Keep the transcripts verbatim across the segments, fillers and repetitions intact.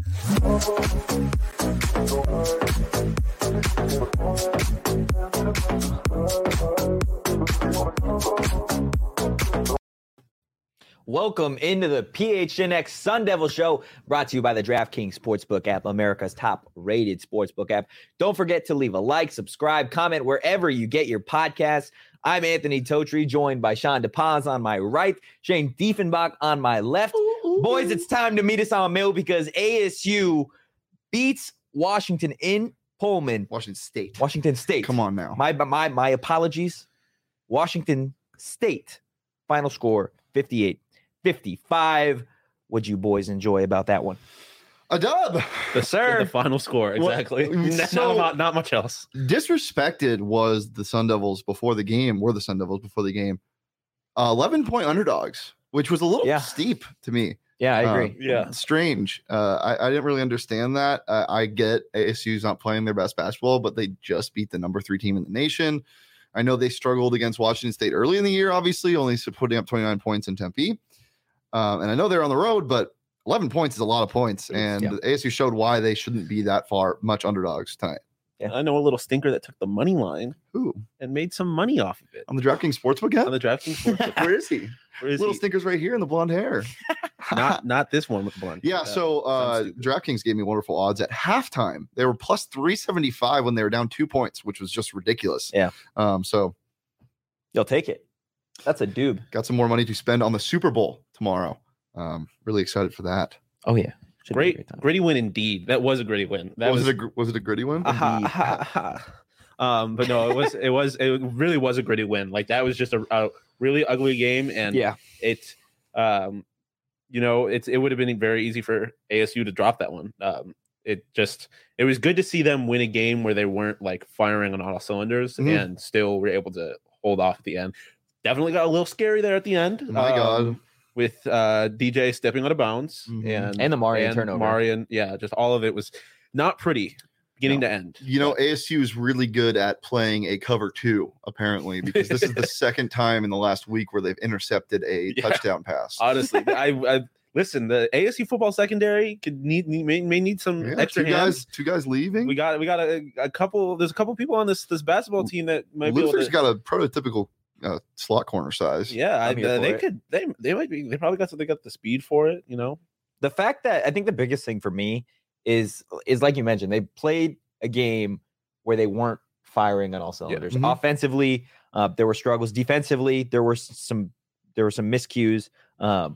Welcome into the P H N X Sun Devil Show, brought to you by the DraftKings Sportsbook app, America's top-rated sportsbook app. Don't forget to leave a like, subscribe, comment wherever you get your podcasts. I'm Anthony Totri, joined by Sean DePaz on my right, Shane Diefenbach on my left. Ooh, ooh, Boys, ooh. It's time to meet us on Mill because A S U beats Washington in Pullman. Washington State. Washington State. Come on now. My my my apologies. Washington State. Final score fifty-eight fifty-five. What'd you boys enjoy about that one? A dub. The, sir. The final score, exactly. Well, so not, not much else. Disrespected was the Sun Devils before the game, were the Sun Devils before the game. Uh, eleven-point underdogs, which was a little yeah. steep to me. Yeah, I agree. Uh, yeah. Strange. Uh, I, I didn't really understand that. Uh, I get A S U's not playing their best basketball, but they just beat the number three team in the nation. I know they struggled against Washington State early in the year, obviously, only putting up twenty-nine points in Tempe. Um, and I know they're on the road, but eleven points is a lot of points. And yeah. A S U showed why they shouldn't be that far much underdogs tonight. Yeah. I know a little stinker that took the money line. Who? And made some money off of it. On the DraftKings Sportsbook app? On the DraftKings Sportsbook. Where is he? Where is little he? stinker's right here in the blonde hair. not not this one with the blonde. Yeah, so uh, DraftKings gave me wonderful odds at halftime. They were plus three seventy-five when they were down two points, which was just ridiculous. Yeah. Um. So you'll take it. That's a doob. Got some more money to spend on the Super Bowl tomorrow. Um. Really excited for that. Oh yeah. Should Great, gritty win indeed. That was a gritty win. That was, was it. A, was it a gritty win? Uh-huh, um, but no, it was. It was. It really was a gritty win. Like that was just a, a really ugly game, and yeah, it. Um, you know, it's it would have been very easy for A S U to drop that one. Um, it just it was good to see them win a game where they weren't like firing on all cylinders mm-hmm. and still were able to hold off at the end. Definitely got a little scary there at the end. My um, God. With uh, D J stepping out of bounds mm-hmm. and and the Marion turnover, Marion, yeah, just all of it was not pretty, beginning no. to end. You know, A S U is really good at playing a cover two, apparently, because this is the second time in the last week where they've intercepted a yeah. touchdown pass. Honestly, I, I listen. The A S U football secondary could need, need may, may need some yeah, extra two hands. Guys, two guys leaving. We got we got a, a couple. There's a couple people on this this basketball team that might Luther's be able to, got a prototypical. Uh, slot corner size. Yeah, I, uh, they it. could. They they might be. They probably got they got the speed for it. You know, the fact that I think the biggest thing for me is is like you mentioned, they played a game where they weren't firing on all cylinders. Yeah. Mm-hmm. Offensively, uh, there were struggles. Defensively, there were some there were some miscues. Um,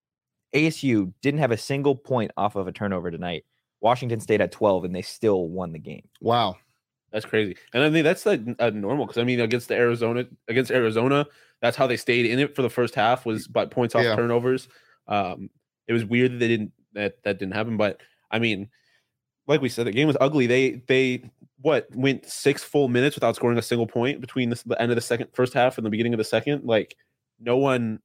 A S U didn't have a single point off of a turnover tonight. Washington State had twelve, and they still won the game. Wow. That's crazy, and I mean that's like uh, normal because I mean against the Arizona against Arizona, that's how they stayed in it for the first half was by points off yeah. turnovers. Um, it was weird that they didn't that that didn't happen, but I mean, like we said, the game was ugly. They they what went six full minutes without scoring a single point between the, the end of the second first half and the beginning of the second. Like no one,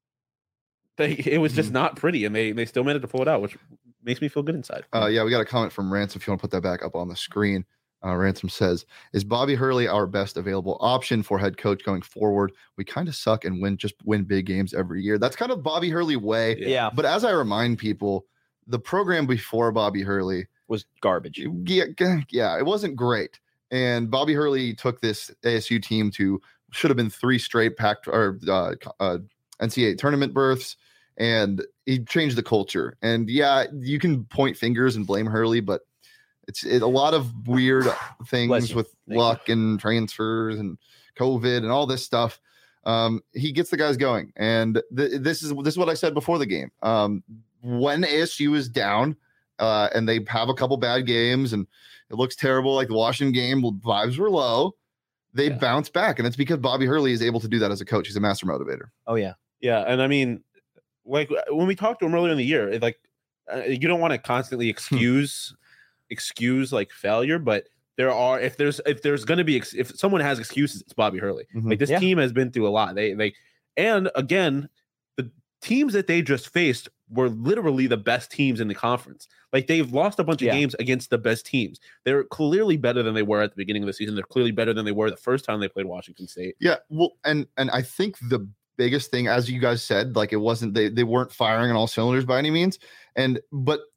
they it was just mm-hmm. not pretty, and they they still managed to pull it out, which makes me feel good inside. Uh, yeah, we got a comment from Ransom. If you want to put that back up on the screen. Uh, Ransom says, is Bobby Hurley our best available option for head coach going forward? We kind of suck and win just win big games every year. That's kind of Bobby Hurley way. Yeah. But as I remind people, the program before Bobby Hurley was garbage. Yeah, yeah, it wasn't great. And Bobby Hurley took this A S U team to should have been three straight packed or uh, uh, N C double A tournament berths, and he changed the culture. And yeah, you can point fingers and blame Hurley, but It's it, a lot of weird things with Thank luck you. and transfers and COVID and all this stuff. Um, he gets the guys going, and th- this is this is what I said before the game. Um, when A S U is down uh, and they have a couple bad games and it looks terrible, like the Washington game, vibes were low. They yeah. bounce back, and it's because Bobby Hurley is able to do that as a coach. He's a master motivator. Oh yeah, yeah, and I mean, like when we talked to him earlier in the year, it, like uh, you don't want to constantly excuse. excuse like failure, but there are if there's if there's going to be if someone has excuses, it's Bobby Hurley. Mm-hmm. Like this yeah. team has been through a lot. They they and again, the teams that they just faced were literally the best teams in the conference. Like they've lost a bunch of yeah. games against the best teams. They're clearly better than they were at the beginning of the season. They're clearly better than they were the first time they played Washington State. Yeah, well, and and I think the biggest thing, as you guys said, like it wasn't they they weren't firing on all cylinders by any means. And but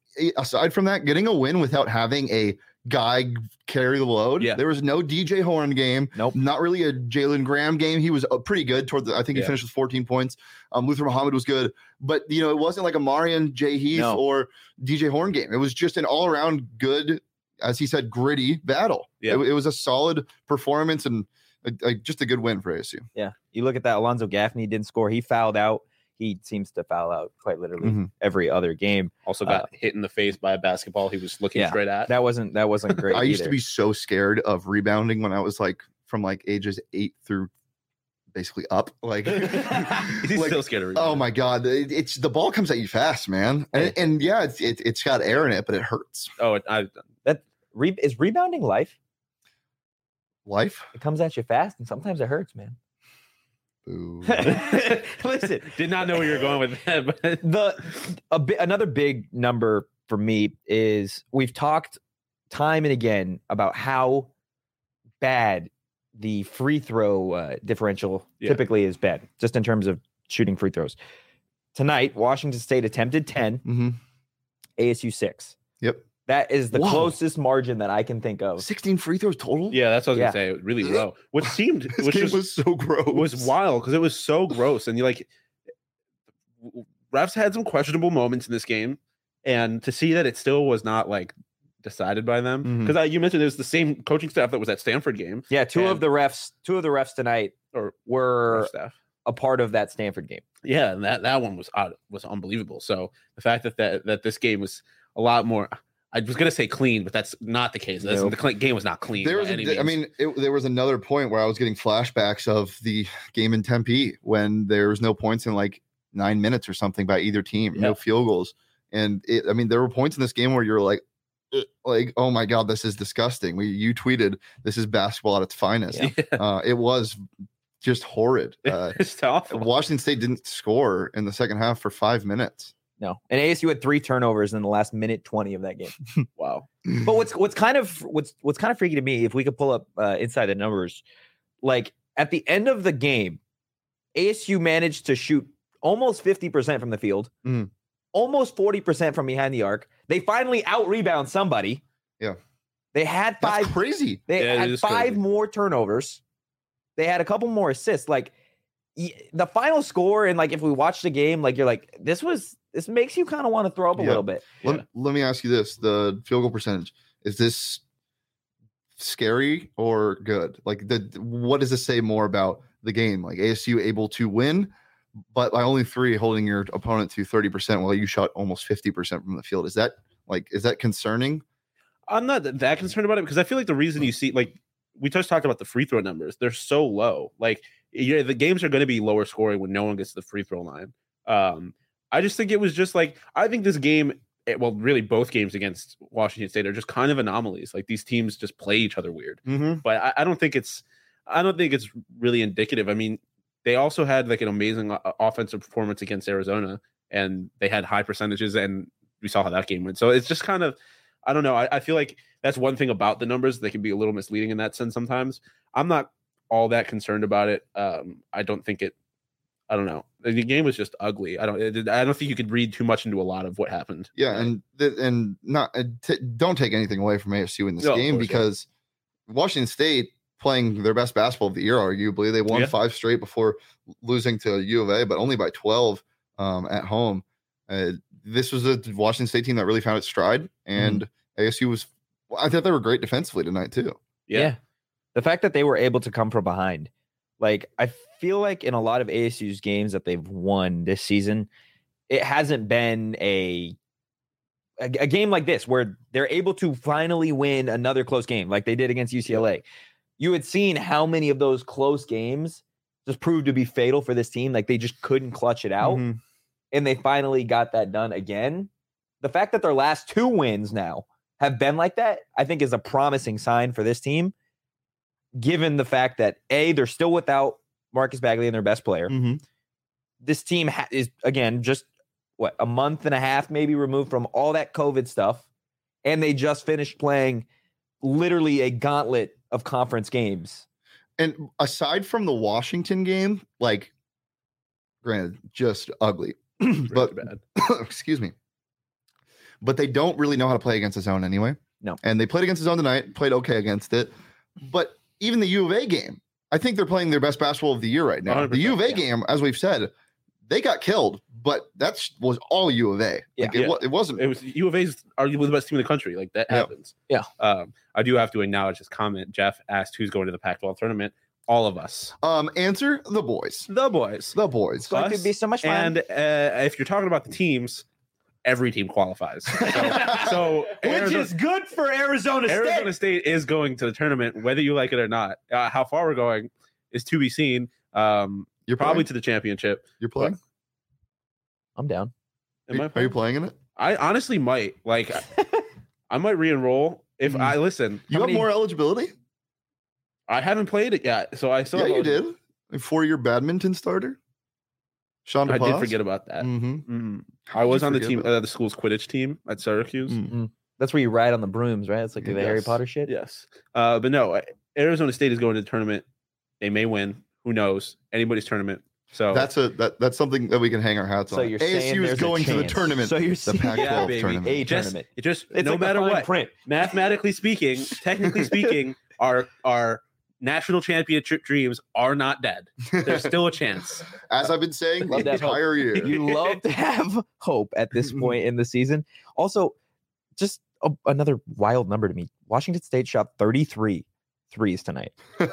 aside from that, getting a win without having a guy carry the load. Yeah. There was no D J Horn game. Nope. Not really a Jalen Graham game. He was uh, pretty good toward the, I think he Yeah. finished with fourteen points. Um, Luther Muhammad was good, but you know, it wasn't like a Marion J. Heath No. or D J Horn game. It was just an all around good, as he said, gritty battle. Yeah. It, it was a solid performance and a, a, just a good win for A S U. Yeah. You look at that. Alonzo Gaffney didn't score. He fouled out. He seems to foul out quite literally Mhm. every other game. Also got Uh, hit in the face by a basketball he was looking Yeah. straight at. That wasn't that wasn't great. I used to either. be so scared of rebounding when I was like from like ages eight through basically up. Like, He's like, still scared of oh rebounding. my god, it- it's the ball comes at you fast, man, and, and yeah, it's it, it's got air in it, but it hurts. Oh, it- I, Re- is rebounding life? Life. It comes at you fast, and sometimes it hurts, man. Boo. Listen, did not know where you were going with that, but the a bi- another big number for me is we've talked time and again about how bad the free throw uh, differential Yeah. typically is bad, just in terms of shooting free throws. Tonight, Washington State attempted ten, hmm A S U six. Yep. That is the Whoa. closest margin that I can think of. sixteen free throws total. yeah, that's what I was Yeah. gonna say. Really low, which seemed This which game was, was so gross. was wild because it was so gross, and you like refs had some questionable moments in this game, and to see that it still was not like decided by them Mhm. because you mentioned it was the same coaching staff that was at Stanford game Yeah, two of And- the refs, two of the refs tonight or were ref staff. a part of that Stanford game. Yeah, and that that one was odd, was unbelievable. So the fact that that that this game was a lot more. I was gonna say clean, but that's not the case. That's, Nope. The cl- game was not clean. There by was, a, any I means. mean, it, there was another point where I was getting flashbacks of the game in Tempe when there was no points in like nine minutes or something by either team, Yeah. no field goals, and it, I mean, there were points in this game where you're like, "Ugh," like, oh my god, this is disgusting. We you tweeted this is basketball at its finest. Yeah. Uh, it was just horrid. Uh, it's tough. Washington State didn't score in the second half for five minutes. No, and A S U had three turnovers in the last minute twenty of that game. Wow. But what's what's kind of what's what's kind of freaky to me, if we could pull up uh, inside the numbers, like at the end of the game, A S U managed to shoot almost fifty percent from the field, Mhm. almost forty percent from behind the arc. They finally out rebound somebody. Yeah. They had That's five. crazy. They Yeah, it had is five crazy. more turnovers. They had a couple more assists. Like y- the final score, and like if we watch the game, like you're like, this was this makes you kind of want to throw up a Yeah. little bit. Let, Yeah. let me ask you this: the field goal percentage, is this scary or good? Like, the what does this say more about the game? Like A S U able to win, but by only three, holding your opponent to thirty percent while you shot almost fifty percent from the field. Is that like is that concerning? I'm not th- that concerned about it because I feel like the reason you see like we just talked about the free throw numbers, they're so low. Like yeah, the games are going to be lower scoring when no one gets to the free throw line. Um, I just think it was just like I think this game, it, well, really both games against Washington State are just kind of anomalies. Like these teams just play each other weird. Mm-hmm. But I, I don't think it's I don't think it's really indicative. I mean, they also had like an amazing o- offensive performance against Arizona, and they had high percentages, and we saw how that game went. So it's just kind of I don't know. I, I feel like that's one thing about the numbers. They can be a little misleading in that sense sometimes. I'm not all that concerned about it. Um, I don't think it. I don't know. The game was just ugly. I don't. It, I don't think you could read too much into a lot of what happened. Yeah, and th- and not uh, t- don't take anything away from A S U in this No, of game course, yeah. because Washington State playing their best basketball of the year, arguably they won Yeah. five straight before losing to U of A, but only by twelve um, at home. Uh, this was a Washington State team that really found its stride, and A S U was. Well, I thought they were great defensively tonight too. Yeah. The fact that they were able to come from behind, like I feel like in a lot of A S U's games that they've won this season, it hasn't been a, a a game like this where they're able to finally win another close game like they did against U C L A. You had seen how many of those close games just proved to be fatal for this team. Like they just couldn't clutch it out, Mhm. and they finally got that done again. The fact that their last two wins now have been like that, I think is a promising sign for this team, given the fact that A, they're still without Marcus Bagley and their best player. Mhm. This team ha- is, again, just what, a month and a half maybe removed from all that COVID stuff. And they just finished playing literally a gauntlet of conference games. And aside from the Washington game, like, granted, just ugly, Really but bad. excuse me. but they don't really know how to play against the zone anyway. No. And they played against the zone tonight, played okay against it. But even the U of A game, I think they're playing their best basketball of the year right now. The U of A yeah. game, as we've said, they got killed, but that was all U of A. Yeah. Like it, Yeah. wa- it wasn't. It was U of A's arguably the best team in the country. Like that Yeah. happens. Yeah. Um, I do have to acknowledge this comment. Jeff asked who's going to the Pac twelve tournament. All of us. Um, answer the boys. The boys. The boys. It's going to Us, be so much fun. And uh, if you're talking about the teams, every team qualifies. So, so Which Arizona, is good for Arizona State. Arizona State is going to the tournament, whether you like it or not. Uh, how far we're going is to be seen. Um, You're probably playing? to the championship. You're playing? I'm down. Am I Are you playing in it? I honestly might. Like, I might re-enroll if Mhm. I listen. You How have many- more eligibility? I haven't played it yet, so I still Yeah, have you did. A four-year badminton starter. Sean I did DePaz? forget about that. Mm-hmm. Mhm. I was you on the forget team, about- uh, the school's Quidditch team at Syracuse. Mm. That's where you ride on the brooms, right? It's like the Harry Yes. Potter shit. Yes, uh, but no, Arizona State is going to the tournament. They may win. Who knows? Anybody's tournament. So That's a that, that's something that we can hang our hats So on. you're A S saying U is there's a going to the chance. tournament. So you're the saying Pac twelve Yeah, baby. tournament. a just, tournament. it just It's no like the matter fine what. print. Mathematically speaking, technically speaking, our our national championship dreams are not dead. There's still a chance. As I've been saying Love the that hope. entire year. You love to have hope at this point in the season. Also, just a, another wild number to me. Washington State shot thirty-three threes tonight.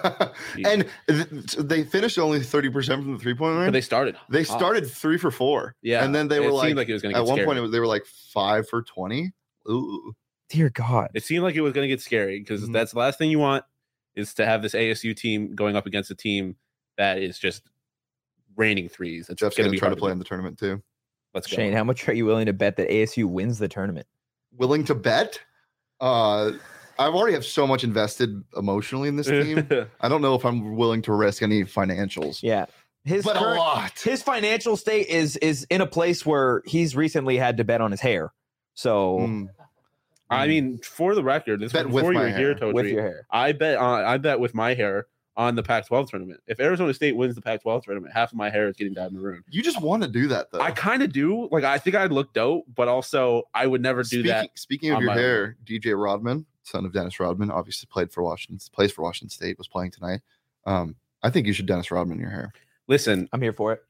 and th- they finished only thirty percent from the three-point line. But they started. They started three for four. Yeah, And then they it were seemed like, like it was going to at get one scary. point, it was, they were like five for twenty. Ooh. Dear God. It seemed like it was going to get scary because Mhm. that's the last thing you want is to have this A S U team going up against a team that is just raining threes. It's Jeff's going going to to be try hard to play do. in the tournament too. Let's go. Shane, how much are you willing to bet that A S U wins the tournament? Willing to bet? Uh, I've already have so much invested emotionally in this team. I don't know if I'm willing to risk any financials. Yeah. His But a current- lot. his financial state is is in a place where he's recently had to bet on his hair. So Mm. I mean, for the record, this Bet was with before you my were here, hair. Totri. with your hair. I bet on I bet with my hair on the Pac twelve tournament. If Arizona State wins the Pac twelve tournament, half of my hair is getting dyed maroon. You just want to do that though. I kind of do. Like I think I'd look dope, but also I would never do speaking, that. Speaking of on your my own. hair, D J Rodman, son of Dennis Rodman, obviously played for Washington, plays for Washington State, was playing tonight. Um, I think you should Dennis Rodman your hair. Listen, I'm here for it.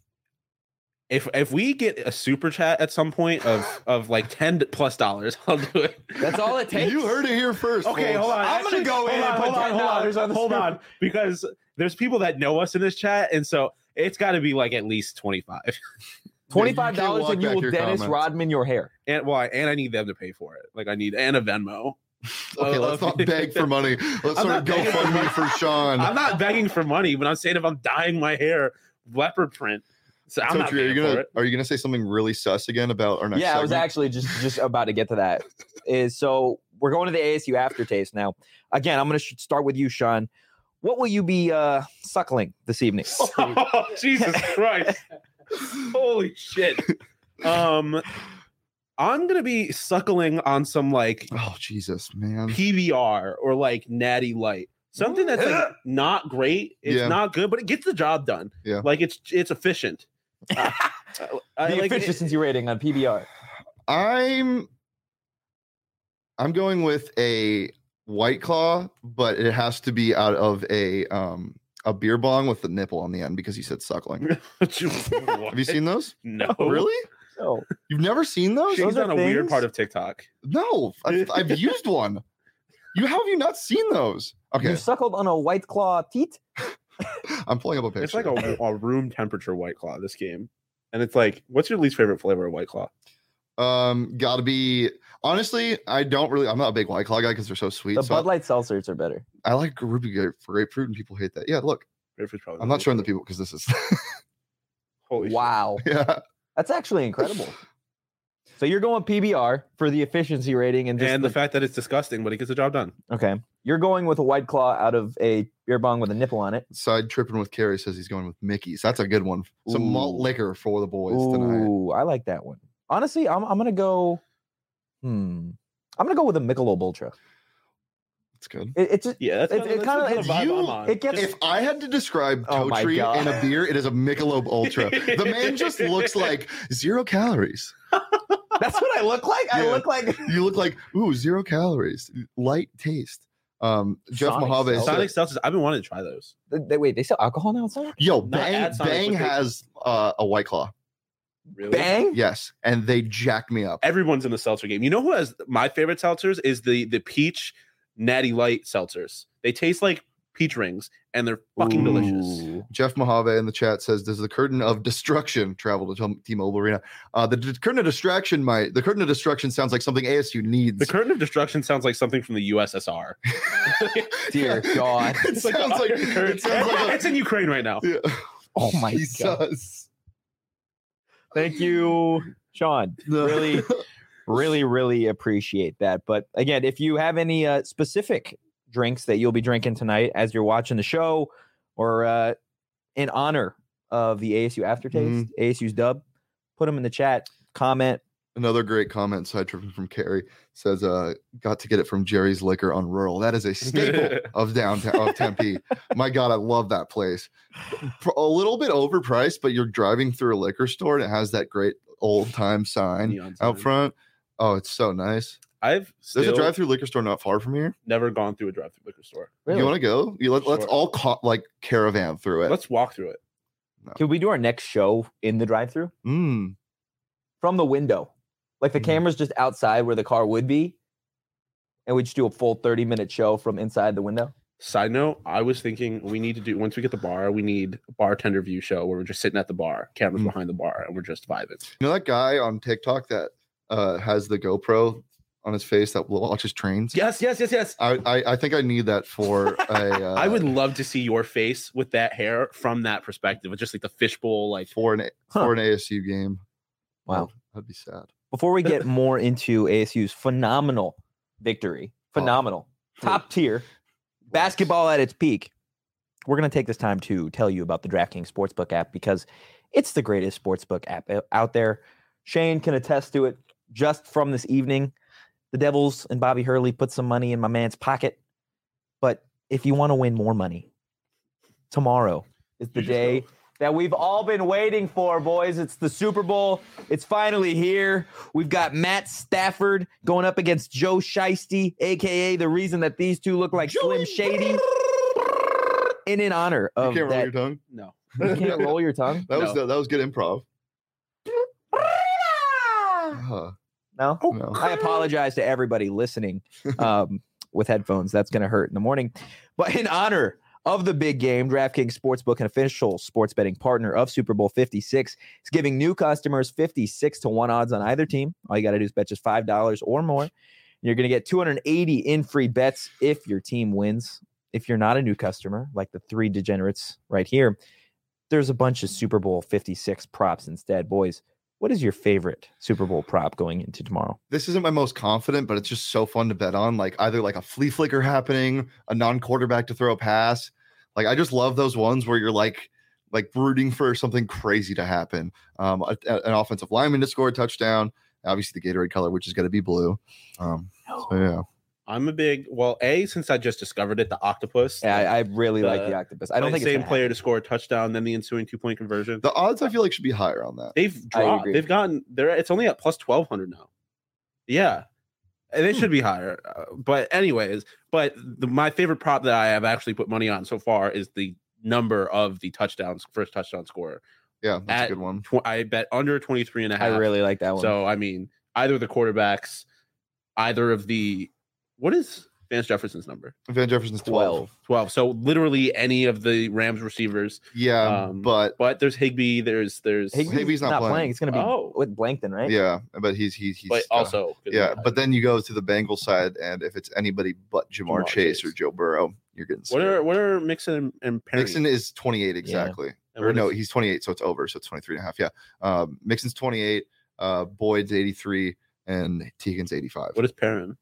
if if we get a super chat at some point of of like ten plus dollars, I'll do it. That's all it takes. You heard it here first. Okay, folks. hold on. I'm gonna Actually, go hold in and on, put hold on, hold ten dollars on, on the hold screen. on, because there's people that know us in this chat, and so it's got to be like at least twenty five. Twenty-five Yeah, you dollars can't and you walk will back your Dennis comments. Rodman your hair. And why? And I need them to pay for it. Like I need and a Venmo. Okay, let's not beg for money. Let's I'm start a not begging for GoFundMe for Sean. I'm not begging for money, but I'm saying if I'm dyeing my hair leopard print, so I'm not Totri, are you paying for gonna it. are you gonna say something really sus again about our next? Yeah, I was segment? actually just just about to get to that. Is so we're going to the A S U aftertaste now. Again, I'm going to start with you, Sean. What will you be uh, suckling this evening? Oh, Jesus Christ! Holy shit! Um, I'm gonna be suckling on some like Oh Jesus, man. P B R or like Natty Light, something that's like not great. It's Yeah. not good, but it gets the job done. Yeah. like it's it's efficient. Uh, I The like it- efficiency rating on P B R. I'm I'm going with a White Claw, but it has to be out of a um a beer bong with the nipple on the end because he said suckling. Have you seen those? No, Really? Oh, You've never seen those? Shane's Those are on a weird things? part of TikTok. No, I've, I've used one. You how have you not seen those? Okay, you suckled on a White Claw teat? I'm pulling up a picture. It's like a, a room temperature White Claw. This game, and it's like, what's your least favorite flavor of White Claw? um, gotta be honestly. I don't really. I'm not a big White Claw guy because they're so sweet. The so Bud Light seltzers are better. I, I like ruby grape, grapefruit, and people hate that. Yeah, look, Grapefruit's probably I'm my not showing the favorite. people because this is. Holy shit. Wow, yeah. that's actually incredible. So you're going P B R for the efficiency rating and just And the the- fact that it's disgusting, but it gets the job done. okay. You're going with a White Claw out of a beer bong with a nipple on it. Side tripping with Carrie says he's going with Mickey's. That's a good one. Some malt Ooh. liquor for the boys tonight. Ooh, I like that one. Honestly, I'm I'm gonna go. Hmm. I'm gonna go with a Michelob Ultra. That's good. It, it's just Yeah, that's It- kinda- it that's kinda- the it's vibe you- I'm on. it gets- If I had to describe Oh my Totri God. and a beer, it is a Michelob Ultra. The man just looks like zero calories. That's what I look like. I Yeah. look like You look like ooh zero calories, light taste. Um, Jeff Sonic Mojave. Seltzer. Sonic Seltzers. I've been wanting to try those. They, they- wait, they sell alcohol now outside? Yo, Not Bang at Sonic, Bang but they- has uh, a White Claw. Really? Bang? Yes, and they jacked me up. Everyone's in the seltzer game. You know who has my favorite seltzers is the the peach natty light seltzers. They taste like peach rings and they're fucking delicious. Ooh. Jeff Mojave in the chat says, "Does the curtain of destruction travel to T- T-Mobile Arena?" Uh, the d- curtain of distraction might. The curtain of destruction sounds like something A S U needs. The curtain of destruction sounds like something from the U S S R. Dear God. it It's like sounds a- like it sounds like a, it's in Ukraine right now. yeah. Oh my God. Jesus. Thank you, Sean. No. Really, really, really appreciate that. But again, if you have any uh, specific drinks that you'll be drinking tonight as you're watching the show or uh, in honor of the A S U aftertaste, A S U's dub, put them in the chat, comment. Another great comment side trip from Carrie says, uh, got to get it from Jerry's Liquor on Rural. That is a staple of downtown of Tempe. My God, I love that place. A little bit overpriced, but you're driving through a liquor store and it has that great old time sign Neon out sign. front. Oh, it's so nice. I've There's still a drive through liquor store not far from here. never gone through a drive-through liquor store. Really? You want to go? You let, let's Sure. all ca- like caravan through it. Let's walk through it. Can we do our next show in the drive-thru Mm. from the window? Like the Mhm. camera's just outside where the car would be, and we just do a full thirty minute show from inside the window. Side note, I was thinking we need to do once we get the bar, we need a bartender view show where we're just sitting at the bar, cameras Mm. behind the bar, and we're just vibing. You know that guy on TikTok that uh, has the GoPro on his face that watches trains? Yes, yes, yes, yes. I, I, I think I need that for a. Uh, I would love to see your face with that hair from that perspective. It's just like the fishbowl, like for an Huh. for an A S U game. Wow. Oh, that'd be sad. Before we get more into A S U's phenomenal victory, phenomenal, top tier basketball at its peak, we're going to take this time to tell you about the DraftKings Sportsbook app because it's the greatest sportsbook app o- out there. Shane can attest to it just from this evening. The Devils and Bobby Hurley put some money in my man's pocket. But if you want to win more money, tomorrow is the You just day go. that we've all been waiting for, boys. It's the Super Bowl. It's finally here. We've got Matt Stafford going up against Joe Shiesty, a k a the reason that these two look like Slim Shady. And in honor You of can't roll that. your tongue. no. You can't roll your tongue? That was No. that was good improv. Uh, No? no. I apologize to everybody listening um, with headphones. That's going to hurt in the morning. But in honor of the big game, DraftKings Sportsbook, an official sports betting partner of Super Bowl fifty-six, is giving new customers fifty-six to one odds on either team. All you got to do is bet just five dollars or more. You're going to get two hundred eighty in free bets if your team wins. If you're not a new customer, like the three degenerates right here, there's a bunch of Super Bowl fifty-six props instead. Boys, what is your favorite Super Bowl prop going into tomorrow? This isn't my most confident, but it's just so fun to bet on. Like either like a flea flicker happening, a non-quarterback to throw a pass. Like I just love those ones where you're like like rooting for something crazy to happen. Um, a- a- an offensive lineman to score a touchdown. Obviously the Gatorade color, which is going to be blue. Um, so yeah. I'm a big well, A, since I just discovered it, the octopus. Yeah, I, I really like The- the octopus. I don't think same it's player to score a touchdown, then the ensuing two point conversion. The odds I feel like should be higher on that. They've I dropped. agree. They've gotten there. It's only at plus twelve hundred now. Yeah, and they Hmm. should be higher. Uh, but anyways, but the, my favorite prop that I have actually put money on so far is the number of the touchdowns, first touchdown scorer. Yeah, that's At a good one. Tw- I bet under twenty-three and a I half. really like that one. So I mean, either of the quarterbacks, either of the what is Vance Jefferson's number? Van Jefferson's twelve. twelve. twelve. So literally any of the Rams receivers. Yeah, Um, but But there's Higby. There's there's Higby's, Higby's not not, playing. playing. It's going to be Oh. with Blankton, right? yeah, but he's he's he's but uh, also yeah. But then you go to the Bengals side, and if it's anybody but Jamar, Jamar Chase, Chase. or Joe Burrow, you're getting what scared. are what are Mixon and, and Perry? Mixon is twenty-eight exactly. And Or what no, is- he's twenty-eight, so it's over. So it's twenty-three and a half. Yeah. Um, Mixon's twenty-eight, uh, Boyd's eighty-three, and Teagan's eighty-five. what is Perrin?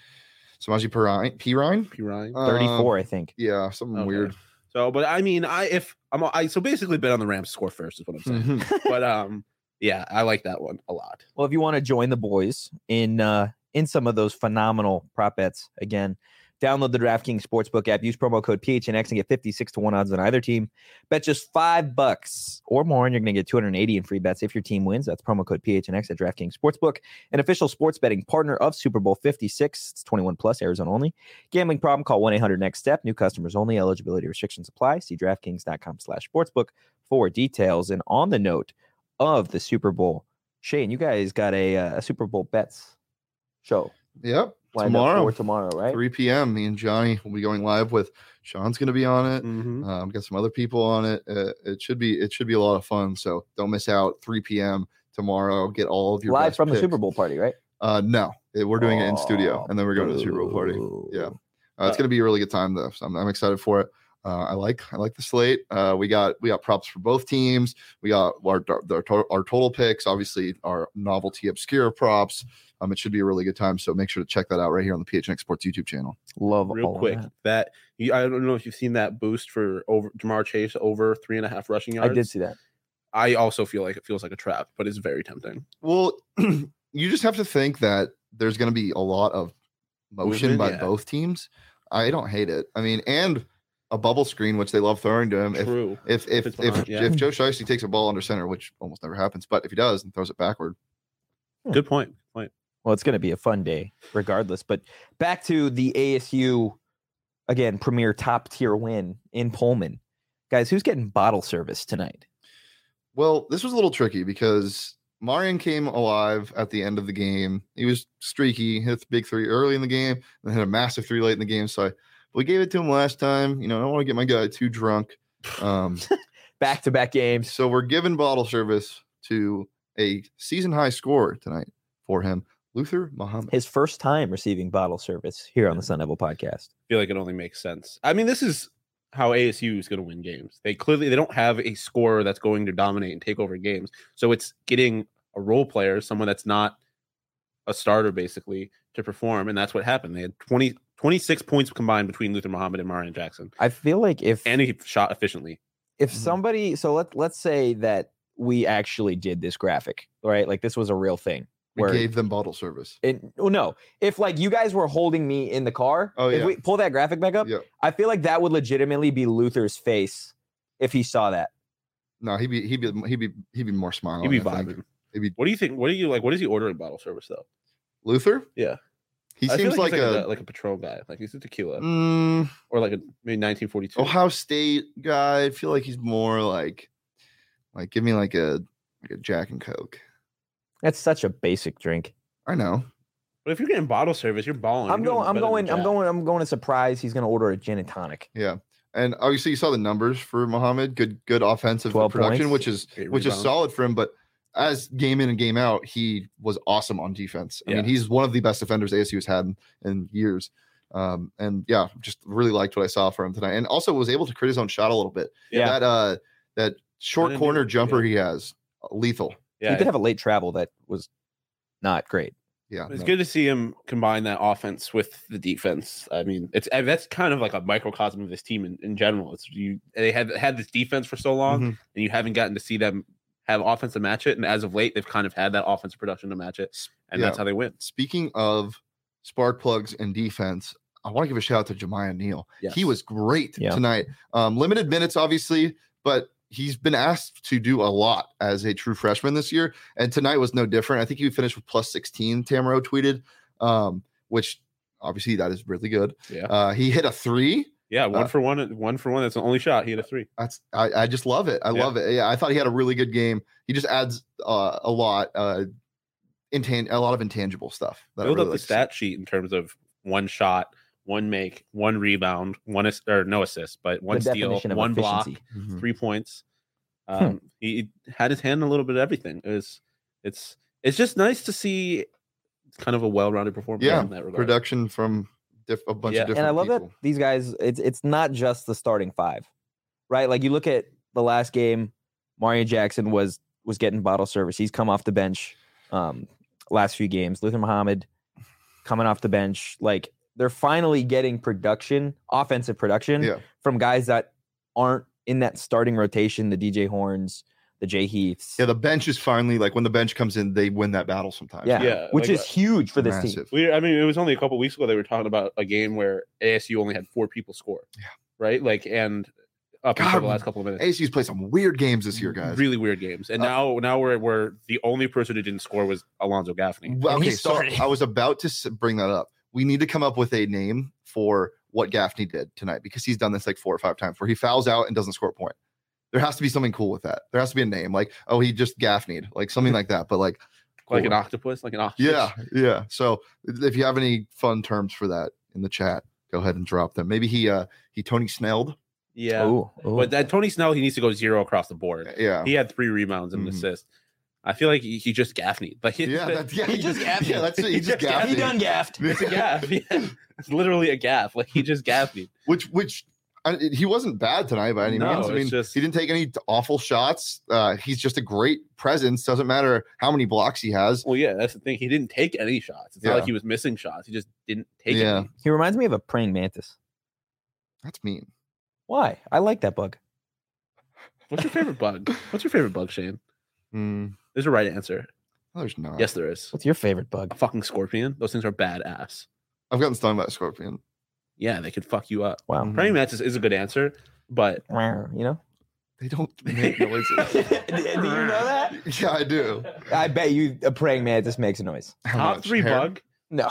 Samaji Perine? Perine? P Ryan. Uh, thirty-four, I think. Yeah, something Okay. weird. So, but I mean, I if I'm I so basically bet on the Rams to score first is what I'm saying. Mhm. but um, yeah, I like that one a lot. Well, if you want to join the boys in uh, in some of those phenomenal prop bets, again, Download the DraftKings Sportsbook app. Use promo code P H N X and get fifty-six to one odds on either team. Bet just five bucks or more, and you're going to get two hundred eighty in free bets if your team wins. That's promo code P H N X at DraftKings Sportsbook, an official sports betting partner of Super Bowl fifty-six. It's twenty-one plus, Arizona only. Gambling problem? Call one eight hundred next step. New customers only. Eligibility restrictions apply. See DraftKings.com slash sportsbook for details. And on the note of the Super Bowl, Shane, you guys got a, uh, a Super Bowl bets show. Yep. Lined Tomorrow. Up for tomorrow, right? three p.m. Me and Johnny will be going live with Sean's going to be on it. Mhm. Um, got some other people on it. Uh, it should be it should be a lot of fun. So don't miss out. three p.m. tomorrow. Get all of your Live best from the picks. Super Bowl party, right? Uh, no, it- we're doing it in studio, Oh, and then we're going to the Super Bowl party. boo. Yeah, uh, it's going to be a really good time though. So I'm, I'm excited for it. Uh, I like I like the slate. Uh, we got we got props for both teams. We got our our, our total picks. Obviously, our novelty obscure props. Um, it should be a really good time. So make sure to check that out right here on the P H N X Sports YouTube channel. Love Real all of quick, that. that you, I don't know if you've seen that boost for over Jamar Chase over three and a half rushing yards. I did see that. I also feel like it feels like a trap, but it's very tempting. Well, you just have to think that there's going to be a lot of motion Movement, by yeah. both teams. I don't hate it. I mean, and a bubble screen, which they love throwing to him. If True. if if it's if, behind, yeah. if Joe Shiesty takes a ball under center, which almost never happens, but if he does and throws it backward, Good point. Good point. Well, it's going to be a fun day regardless. But back to the A S U, again, premier top tier win in Pullman. Guys, who's getting bottle service tonight? well, this was a little tricky because Marion came alive at the end of the game. He was streaky, hit the big three early in the game, and hit a massive three late in the game. So I, we gave it to him last time. You know, I don't want to get my guy too drunk. Um, Back to back games. so we're giving bottle service to a season high scorer tonight for him, Luther Muhammad. His first time receiving bottle service here on the Sun Devil podcast. I feel like it only makes sense. I mean, this is how A S U is going to win games. They clearly they don't have a scorer that's going to dominate and take over games. So it's getting a role player, someone that's not a starter, basically, to perform. And that's what happened. They had twenty, twenty-six points combined between Luther Muhammad and Marion Jackson. I feel like if And he shot efficiently. if Mhm. somebody, so let let's say that we actually did this graphic, right? Like this was a real thing. We Where gave them bottle service. it, well, no, if like you guys were holding me in the car, Oh, if yeah. we pull that graphic back up, Yeah. I feel like that would legitimately be Luther's face if he saw that. No, he'd be he'd be he'd be he'd be more smiling. He'd be I think. vibing. He'd be What do you think? What do you like? What is he ordering bottle service though? Luther. Yeah. He I feel seems like, he's a, like a Patron guy. Like he's a tequila mm, or like a maybe nineteen forty-two. Ohio State guy. I feel like he's more like like give me like a like a Jack and Coke. That's such a basic drink. I know. But if you're getting bottle service, you're balling. I'm You're doing going. I'm better than going. I'm Jack. going. I'm going to surprise. He's going to order a gin and tonic. Yeah. And obviously you saw the numbers for Muhammad. Good good offensive twelve production, points. which is Eight which is rebounds. solid for him. But as game in and game out, he was awesome on defense. I Yeah. mean, he's one of the best defenders A S U has had in, in years. Um, and yeah, just really liked what I saw from him tonight. And also was able to create his own shot a little bit. Yeah. That uh that short didn't corner do- jumper yeah. he has, uh, lethal. Yeah, He did have a late travel that was not great. Yeah. it's no. good to see him combine that offense with the defense. I mean, it's uh, that's kind of like a microcosm of this team in, in general. It's you they had had this defense for so long, Mhm. and you haven't gotten to see them have offense to match it. And as of late, they've kind of had that offensive production to match it, and Yeah. that's how they win. Speaking of spark plugs and defense, I want to give a shout out to Jemiah Neal. Yes. He was great Yeah. tonight. Um, limited minutes, obviously, but he's been asked to do a lot as a true freshman this year. And tonight was no different. I think he finished with plus sixteen, Tamaro tweeted, um, which obviously that is really good. Yeah, Uh, he hit a three. yeah, one uh, for one, one for one. That's the only shot. He had a three. That's I, I just love it. I Yeah. love it. Yeah, I thought he had a really good game. He just adds uh, a lot, uh, intan- a lot of intangible stuff. That I Build really up the like to see. stat sheet in terms of one shot, one make, one rebound, one ass- or no assist, but one the steal, definition of one block, efficiency. Mhm. three points. Um, he, he had his hand in a little bit of everything. It was, it's, it's just nice to see kind of a well-rounded performance. Yeah, in that regard. production from diff- a bunch Yeah. of And different And I love people. that these guys. It's it's not just the starting five, right? Like you look at the last game, Mario Jackson was was getting bottle service. He's come off the bench. Um, last few games, Luther Muhammad coming off the bench. Like they're finally getting production, offensive production Yeah. from guys that aren't in that starting rotation. The D J Horns, the Jay Heaths. Yeah, the bench is finally like when the bench comes in, they win that battle sometimes. Yeah, Yeah, which like, is huge for this team. Massive. We, I mean, it was only a couple weeks ago they were talking about a game where A S U only had four people score. Yeah. Right. Like, and up God, until the last couple of minutes, A S U's played some weird games this year, guys. really weird games. And Uh, now, now we're we're the only person who didn't score was Alonzo Gaffney. Well, And he okay, so started. I was about to s- bring that up. We need to come up with a name for what Gaffney did tonight because he's done this like four or five times where he fouls out and doesn't score a point. There has to be something cool with that. There has to be a name like, oh, he just Gaffneyed, like something like that. But like, Like an cool. octopus, like an octopus. yeah, yeah. So if you have any fun terms for that in the chat, go ahead and drop them. Maybe he uh he Tony Snelled. yeah. Ooh, ooh. But that Tony Snell, he needs to go zero across the board. Yeah. He had three rebounds and an Mhm. assist. I feel like he, he just Gaffneyed. Like, Yeah, that's yeah, He just gaffed yeah, it. that's it. He He just just gaffed gaffed he it. done gaffed. it's a gaff. Yeah. It's literally a gaff. Like, he just Gaffneyed. which which I, he wasn't bad tonight by any No, means. I it's mean, just- he didn't take any awful shots. Uh, he's just a great presence. Doesn't matter how many blocks he has. Well, yeah, that's the thing. He didn't take any shots. It's Yeah. not like he was missing shots. He just didn't take Yeah. any. He reminds me of a praying mantis. That's mean. Why? I like that bug. What's your favorite bug? What's your favorite bug, Shane? Hmm. There's a right answer. No, there's not. Yes, there is. What's your favorite A bug? fucking scorpion. Those things are badass. I've gotten stung by a scorpion. Yeah, they could fuck you up. Wow. Mhm. Praying mantis is a good answer, but You know? They don't make noises. do you know that? Yeah, I do. I bet you a praying mantis makes a noise. How top much? three Hair? bug. No.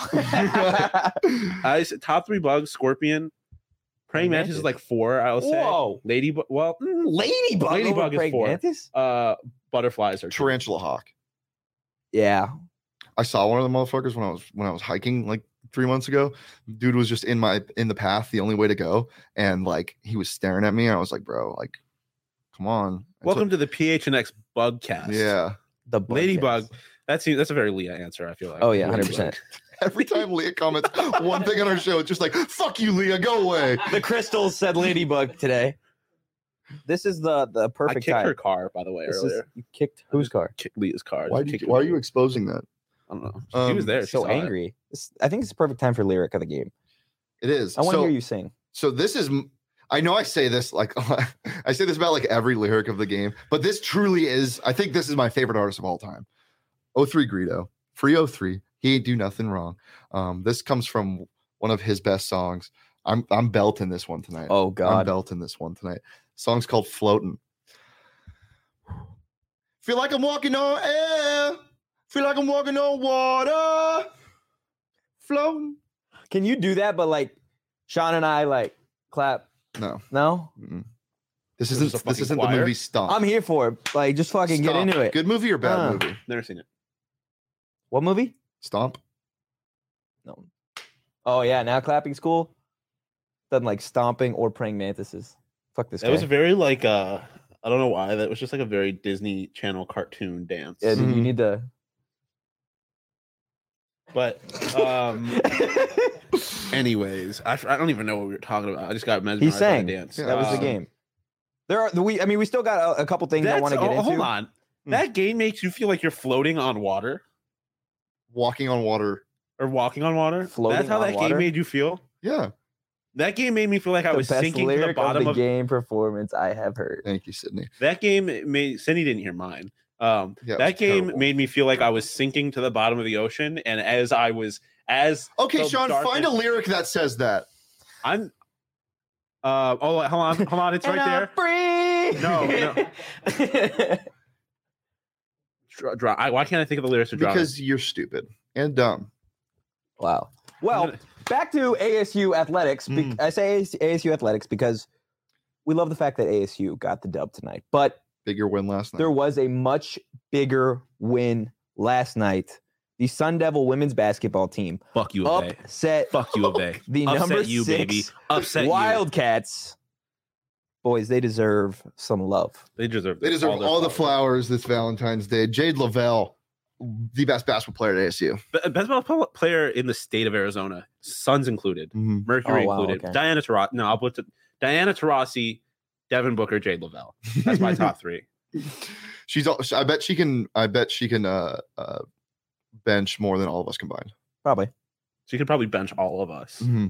I s- top three bugs: scorpion, praying mantis is Mantis. like four. I would say. Whoa. Ladybug. Well, mm, Ladybug. Ladybug over is praying four. mantis? uh, butterflies are two. Tarantula hawk. Yeah. I saw one of the motherfuckers when I was when I was hiking like three months ago. Dude was just in my in the path, the only way to go, and like he was staring at me. And I was like, bro, like, come on. And so- Welcome to the P H N X Bugcast. yeah. The bug Ladybug. cats. That's that's a very Leah answer. I feel like. Oh, yeah, Ladybug. one hundred percent. Every time Leah comments one thing on our show, it's just like, fuck you, Leah, go away. The crystals said ladybug today. This is the the I perfect kicked time. her car, by the way, This is, earlier. you kicked whose car? Kicked Leah's car. Why, Just did kicked you, her why are car. you exposing that? I don't know. Um, she was there. She So saw it. angry. This, I think it's the perfect time for lyric of the game. It is. I want to so, hear you sing. So this is, I know I say this like, I say this about like every lyric of the game, but this truly is, I think this is my favorite artist of all time. oh three Greedo, Free oh three. He ain't do nothing wrong. Um, this comes from one of his best songs. I'm I'm belting this one tonight. Oh I'm God. belting this one tonight. Song's called Floating. Feel like I'm walking on air. Feel like I'm walking on water. Floating. Can you do that? But like Sean and I like clap. No. No, Mm-mm. This This isn't is a this fucking isn't choir? the movie Stomp. I'm here for it. Like just fucking get Stomp. into it. Good movie or bad Uh. movie? Never seen it. What movie? Stomp. No. Oh yeah, now clapping's cool. Doesn't like stomping or praying mantises. Fuck this That guy. was a very like uh I don't know why that was just like a very Disney Channel cartoon dance. yeah, dude, you Mhm. need to. But um anyways, I, f- I don't even know what we were talking about. I just got mesmerized He by sang. the dance. Yeah, That was the Um, game. There are the we. I mean, we still got a, a couple things I that's- want to get oh, into. Hold on. Hmm. That game makes you feel like you're floating on water Walking on water. or walking on water. Floating That's how on that water? game made you feel. Yeah. That game made me feel like I The was best sinking to the lyric bottom of the of, game performance I have heard. Thank you, Sydney. that game. Made Cindy didn't hear mine. Um, Yeah, it that was game terrible. made me feel like I was sinking to the bottom of the ocean, and as I was as Okay, the Sean, darkness- find a lyric that says that. I'm. Uh, oh, hold on, hold on, it's right there. Free. No, no. Dra- dra- I, why can't I think of the lyrics to Drowning? Because you're stupid and dumb. Wow. Well, back to A S U athletics. Be- Mm. I say A S U athletics because we love the fact that A S U got the dub tonight, but Bigger win last night. there was a much bigger win last night. The Sun Devil women's basketball team Fuck you, Obey. upset Fuck you, Obey. the Upset number you, six baby. Upset you. Wildcats. Boys, they deserve some love. They deserve. They deserve their all the flowers this Valentine's Day. Jade Lavelle, the best basketball player at A S U. Be- Best basketball player in the state of Arizona, Suns included, Mercury Oh, wow, included, okay. Diana Taurasi. No, I'll put it- Diana Taurasi, Devin Booker, Jade Lavelle. That's my top three. She's. al- I bet she can. I bet she can uh, uh, bench more than all of us combined. Probably. She could probably bench all of us. Mhm.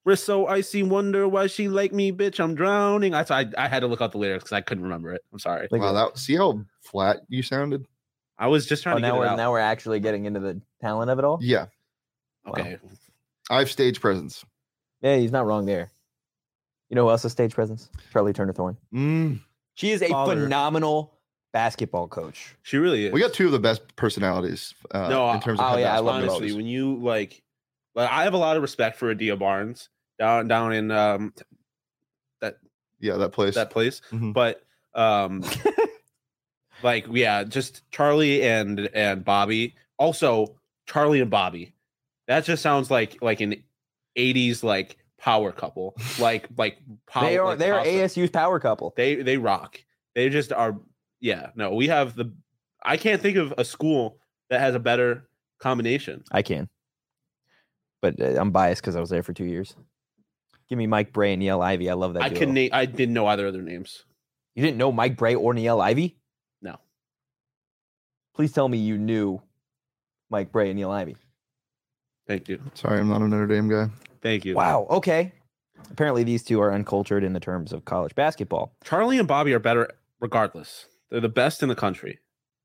Wrist so icy, wonder why she like me, bitch. I'm drowning. I I, I had to look up the lyrics because I couldn't remember it. I'm sorry. Like, Wow, that see how flat you sounded? I was just trying oh, to now get we're it out. now we're actually getting into the talent of it all. Yeah, Okay. I have stage presence. Yeah, he's not wrong there. You know who else has stage presence? Charlie Turner Thorne. Mm. She is a Father. phenomenal basketball coach. She really is. We got two of the best personalities. Uh, No, in terms of oh, head yeah, I basketball love honestly, coaches. when you like, like I have a lot of respect for Adia Barnes down down in um that Yeah, that place. that place, Mhm. but um like yeah, just Charlie and and Bobby. Also, Charlie and Bobby. That just sounds like like an eighties like power couple. Like like power. They are like they are pasta. A S U's power couple. They they rock. They just are. Yeah. No, we have the. I can't think of a school that has a better combination. I can, but uh, I'm biased because I was there for two years. Give me Mike Bray and Niele Ivy. I love that. I duo. can name. I didn't know either of their names. You didn't know Mike Bray or Niele Ivy? No. Please tell me you knew Mike Bray and Niele Ivy. Thank you. Sorry, I'm not a Notre Dame guy. Thank you. Wow. Okay. Apparently, these two are uncultured in the terms of college basketball. Charlie and Bobby are better regardless. They're the best in the country.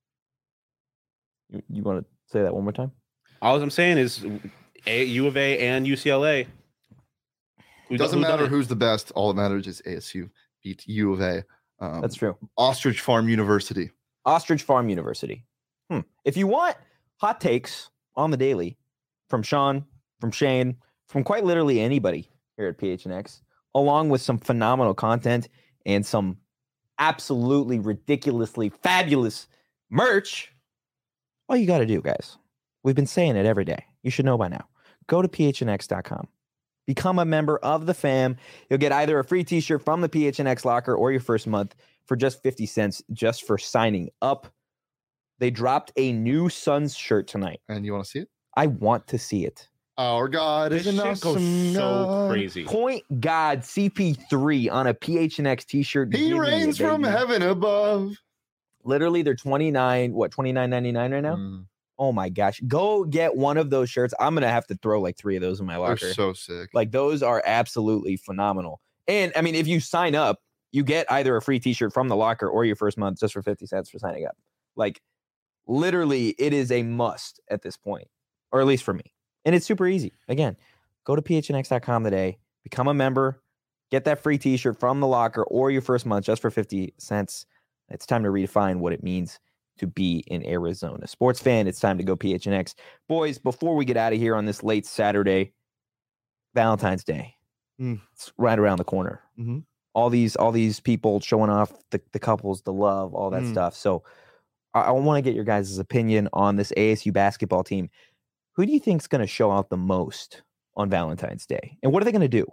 You, you want to say that one more time? All I'm saying is a, U of A and U C L A. Who It do- doesn't who done matter it? who's the best. All that matters is A S U beat U of A. Um, That's true. Ostrich Farm University. Ostrich Farm University. Hmm. If you want hot takes on the daily from Sean, from Shane, from quite literally anybody here at P H N X, along with some phenomenal content and some absolutely ridiculously fabulous merch, all you got to do, guys, we've been saying it every day. You should know by now. Go to P H N X dot com. Become a member of the fam. You'll get either a free t-shirt from the P H N X locker or your first month for just fifty cents just for signing up. They dropped a new Suns shirt tonight. And you want to see it? I want to see it. Our God This is an shit goes awesome so God. crazy. Point God C P three on a P H N X t-shirt. He Give me reigns it, from baby. heaven above. Literally, they're twenty-nine, what, twenty-nine ninety-nine right now? Mm, Oh my gosh. Go get one of those shirts. I'm going to have to throw like three of those in my they're locker. so sick. Like those are absolutely phenomenal. And I mean, if you sign up, you get either a free t-shirt from the locker or your first month just for fifty cents for signing up. Like literally, it is a must at this point, or at least for me. And it's super easy. Again, go to P H N X dot com today, become a member, get that free t-shirt from the locker or your first month just for fifty cents. It's time to redefine what it means to be an Arizona sports fan. It's time to go P H N X. Boys, before we get out of here on this late Saturday, Valentine's Day. Mm. It's right around the corner. Mhm. All these all these people showing off the, the couples, the love, all that Mm. stuff. So I, I want to get your guys' opinion on this A S U basketball team. Who do you think is going to show out the most on Valentine's Day? And what are they going to do?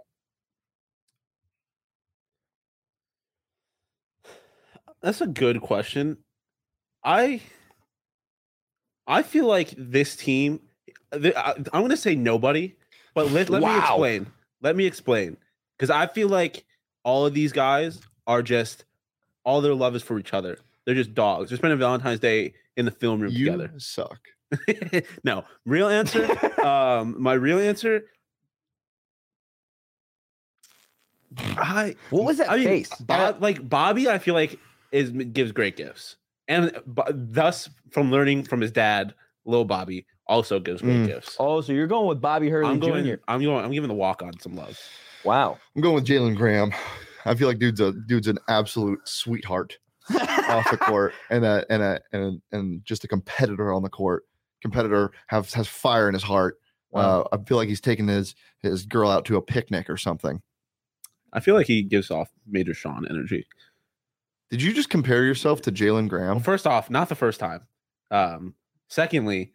That's a good question. I I feel like this team. th- I, I'm going to say nobody, but let, let me Wow. explain. Let me explain, because I feel like all of these guys are just all their love is for each other. They're just dogs. They're spending Valentine's Day in the film room You together. suck. No, real answer. um, my real answer. I What was that I mean, face? Bob, like Bobby, I feel like is gives great gifts, and but thus from learning from his dad, Lil Bobby also gives great Mm. gifts. Oh, so you're going with Bobby Hurley I'm going. Junior I'm going. I'm giving the walk on some love. Wow. I'm going with Jalen Graham. I feel like dude's a dude's an absolute sweetheart off the court and a and a and and just a competitor on the court. Competitor has has fire in his heart. Wow. Uh, I feel like he's taking his his girl out to a picnic or something. I feel like he gives off Major Sean energy. Did you just compare yourself to Jalen Well, Graham? first off, not the first time. Um, secondly,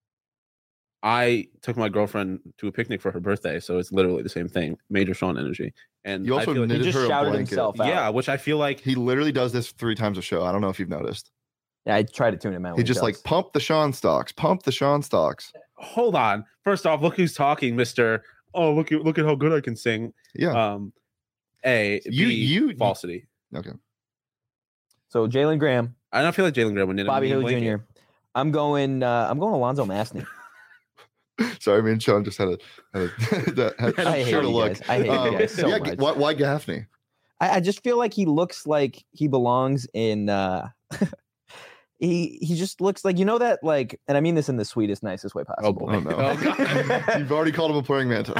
I took my girlfriend to a picnic for her birthday, so it's literally the same thing. Major Sean energy, and You also I feel like, He knitted just her a shouted blanket. himself out. yeah, which I feel like He literally does this three times a show. I don't know if you've noticed. Yeah, I try to tune him out. He when just like does. pump the Sean stocks, pump the Sean stocks. hold on. First off, look who's talking, Mister Oh, look at look at how good I can sing. Yeah. Um, A, You- B, you- falsity. Okay. So Jalen Graham, I don't feel like Jalen Graham would knit a Bobby mean Hurley blanket. Junior I'm going. Uh, I'm going Alonzo Masney. Sorry, me and Sean just had a had a that, had, I hate shared a you look. guys. I hate Um, you guys so yeah, much. Why, why Gaffney? I, I just feel like he looks like he belongs in. uh He he just looks like, you know, that, like, and I mean this in the sweetest, nicest way possible. boy. Oh, no. Oh, God. You've already called him a praying mantis.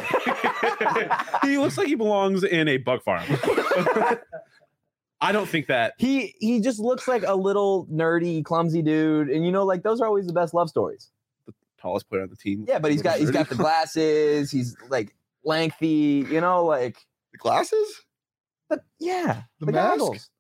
He looks like he belongs in a bug farm. I don't think that. He he just looks like a little nerdy, clumsy dude, and you know, like those are always the best love stories. Tallest player on the team. Yeah, but he's got he's got the glasses. He's like lengthy, you know, like The glasses? the, yeah, The the, mask? goggles.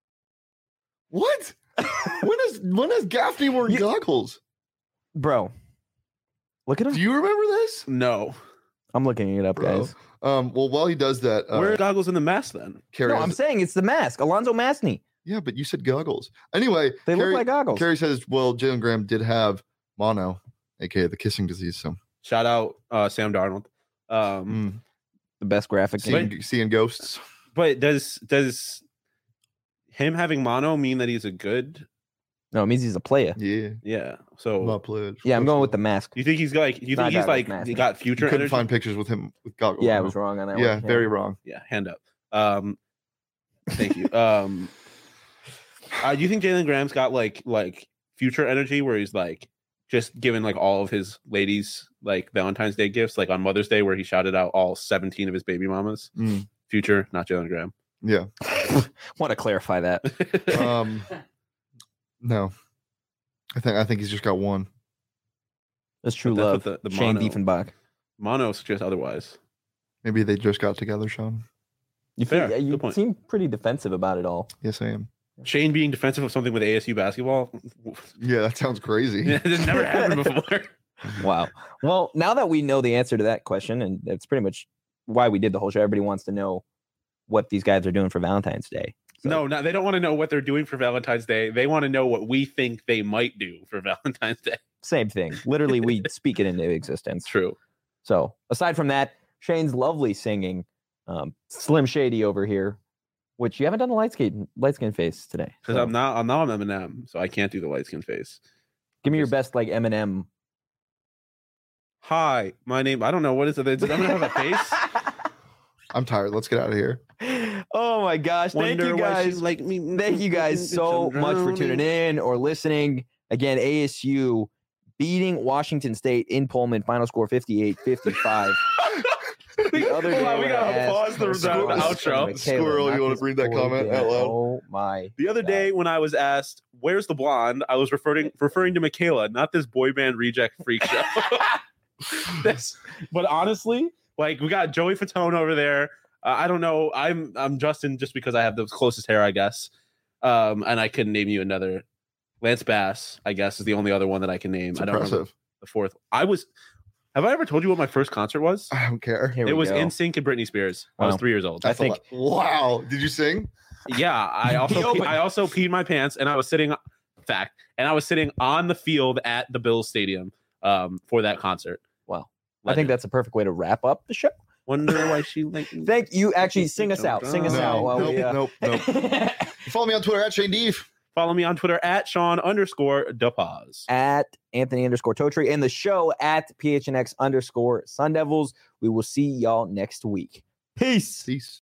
What? when has when has Gaffney worn You- goggles? Bro, look at him. Do you remember this? No. I'm looking it up, Bro. guys. Um, well, while he does that, uh, Where are goggles in the mask then? Carrie No, has- I'm saying it's the mask. Alonzo Masney. yeah, but you said goggles. Anyway, They Carrie, look like goggles. Carrie says, well, Jalen Graham did have mono, aka the kissing disease. So Shout out uh, Sam Darnold. Um, mm, The best graphic. seeing, seeing ghosts. But does does him having mono mean that he's a good? No, it means he's a player. Yeah, Yeah. So my pledge. Yeah, I'm going with the mask. you think he's like? You Not think he's goggles, like mask. he got You future couldn't energy? find pictures with him with goggles. Yeah, I no. was wrong on that Yeah, one. very wrong. Yeah, hand up. Um, thank you. Um, uh, do you think Jalen Graham's got like like future energy where he's like just giving like all of his ladies like Valentine's Day gifts, like on Mother's Day where he shouted out all seventeen of his baby mamas? Mm, Future, not Jalen Graham. yeah. Want to clarify that. Um, no, I think I think he's just got one. That's true But that's love. what the- the Shane mono- Diefenbach. Mono suggests otherwise. Maybe they just got together, Sean. You, Fair, feel, you good point. seem pretty defensive about it all. Yes, I am. Shane being defensive of something with A S U basketball. Yeah, that sounds crazy. It's never happened before. Wow. Well, now that we know the answer to that question, and that's pretty much why we did the whole show, everybody wants to know what these guys are doing for Valentine's Day. So- No, no, they don't want to know what they're doing for Valentine's Day. They want to know what we think they might do for Valentine's Day. Same thing. Literally, we speak it into existence. True. So aside from that, Shane's lovely singing, um, Slim Shady over here, which you haven't done the light skin light skin face today. Because So I'm not, I'm not on Eminem, so I can't do the light skin face. give me your just- best like Eminem. Hi, my name. I don't know what is it. Does Eminem have a face? I'm tired. Let's get out of here. Oh my gosh! Thank you guys. like me. Thank you guys so much for tuning in or listening. Again, A S U beating Washington State in Pullman. Final score fifty-eight fifty-five. The other Hold day on, we when I gotta asked pause the- for the scores outro. from Michaela, Squirrel, you not wanna this read that poor comment kid. out loud? Oh my! The other day when I was asked, "Where's the blonde?" I was referring referring to Michaela, not this boy band reject freak show. This, but honestly, like we got Joey Fatone over there. Uh, I don't know. I'm I'm Justin just because I have the closest hair, I guess. Um, and I couldn't name you another. Lance Bass, I guess, is the only other one that I can name. It's I don't remember impressive. the fourth. I was. Have I ever told you what my first concert was? I don't care. Here It we was go. NSYNC and Britney Spears. I was Wow. three years old. I That's a think- lot. Wow. Did you sing? Yeah, I also opened. pe- I also peed my pants, and I was sitting. Fact, and I was sitting on the field at the Bills Stadium um, for that concert. Wow. I think that's a perfect way to wrap up the show. Wonder why she like. Thank you. Actually, sing us out. Sing us No, out. While nope, we, uh... nope, nope. Follow me on Twitter at Shane Deef. Follow me on Twitter at Sean underscore DePaz. at Anthony underscore Totri and the show at P H N X underscore Sun Devils. We will see y'all next week. Peace. Peace.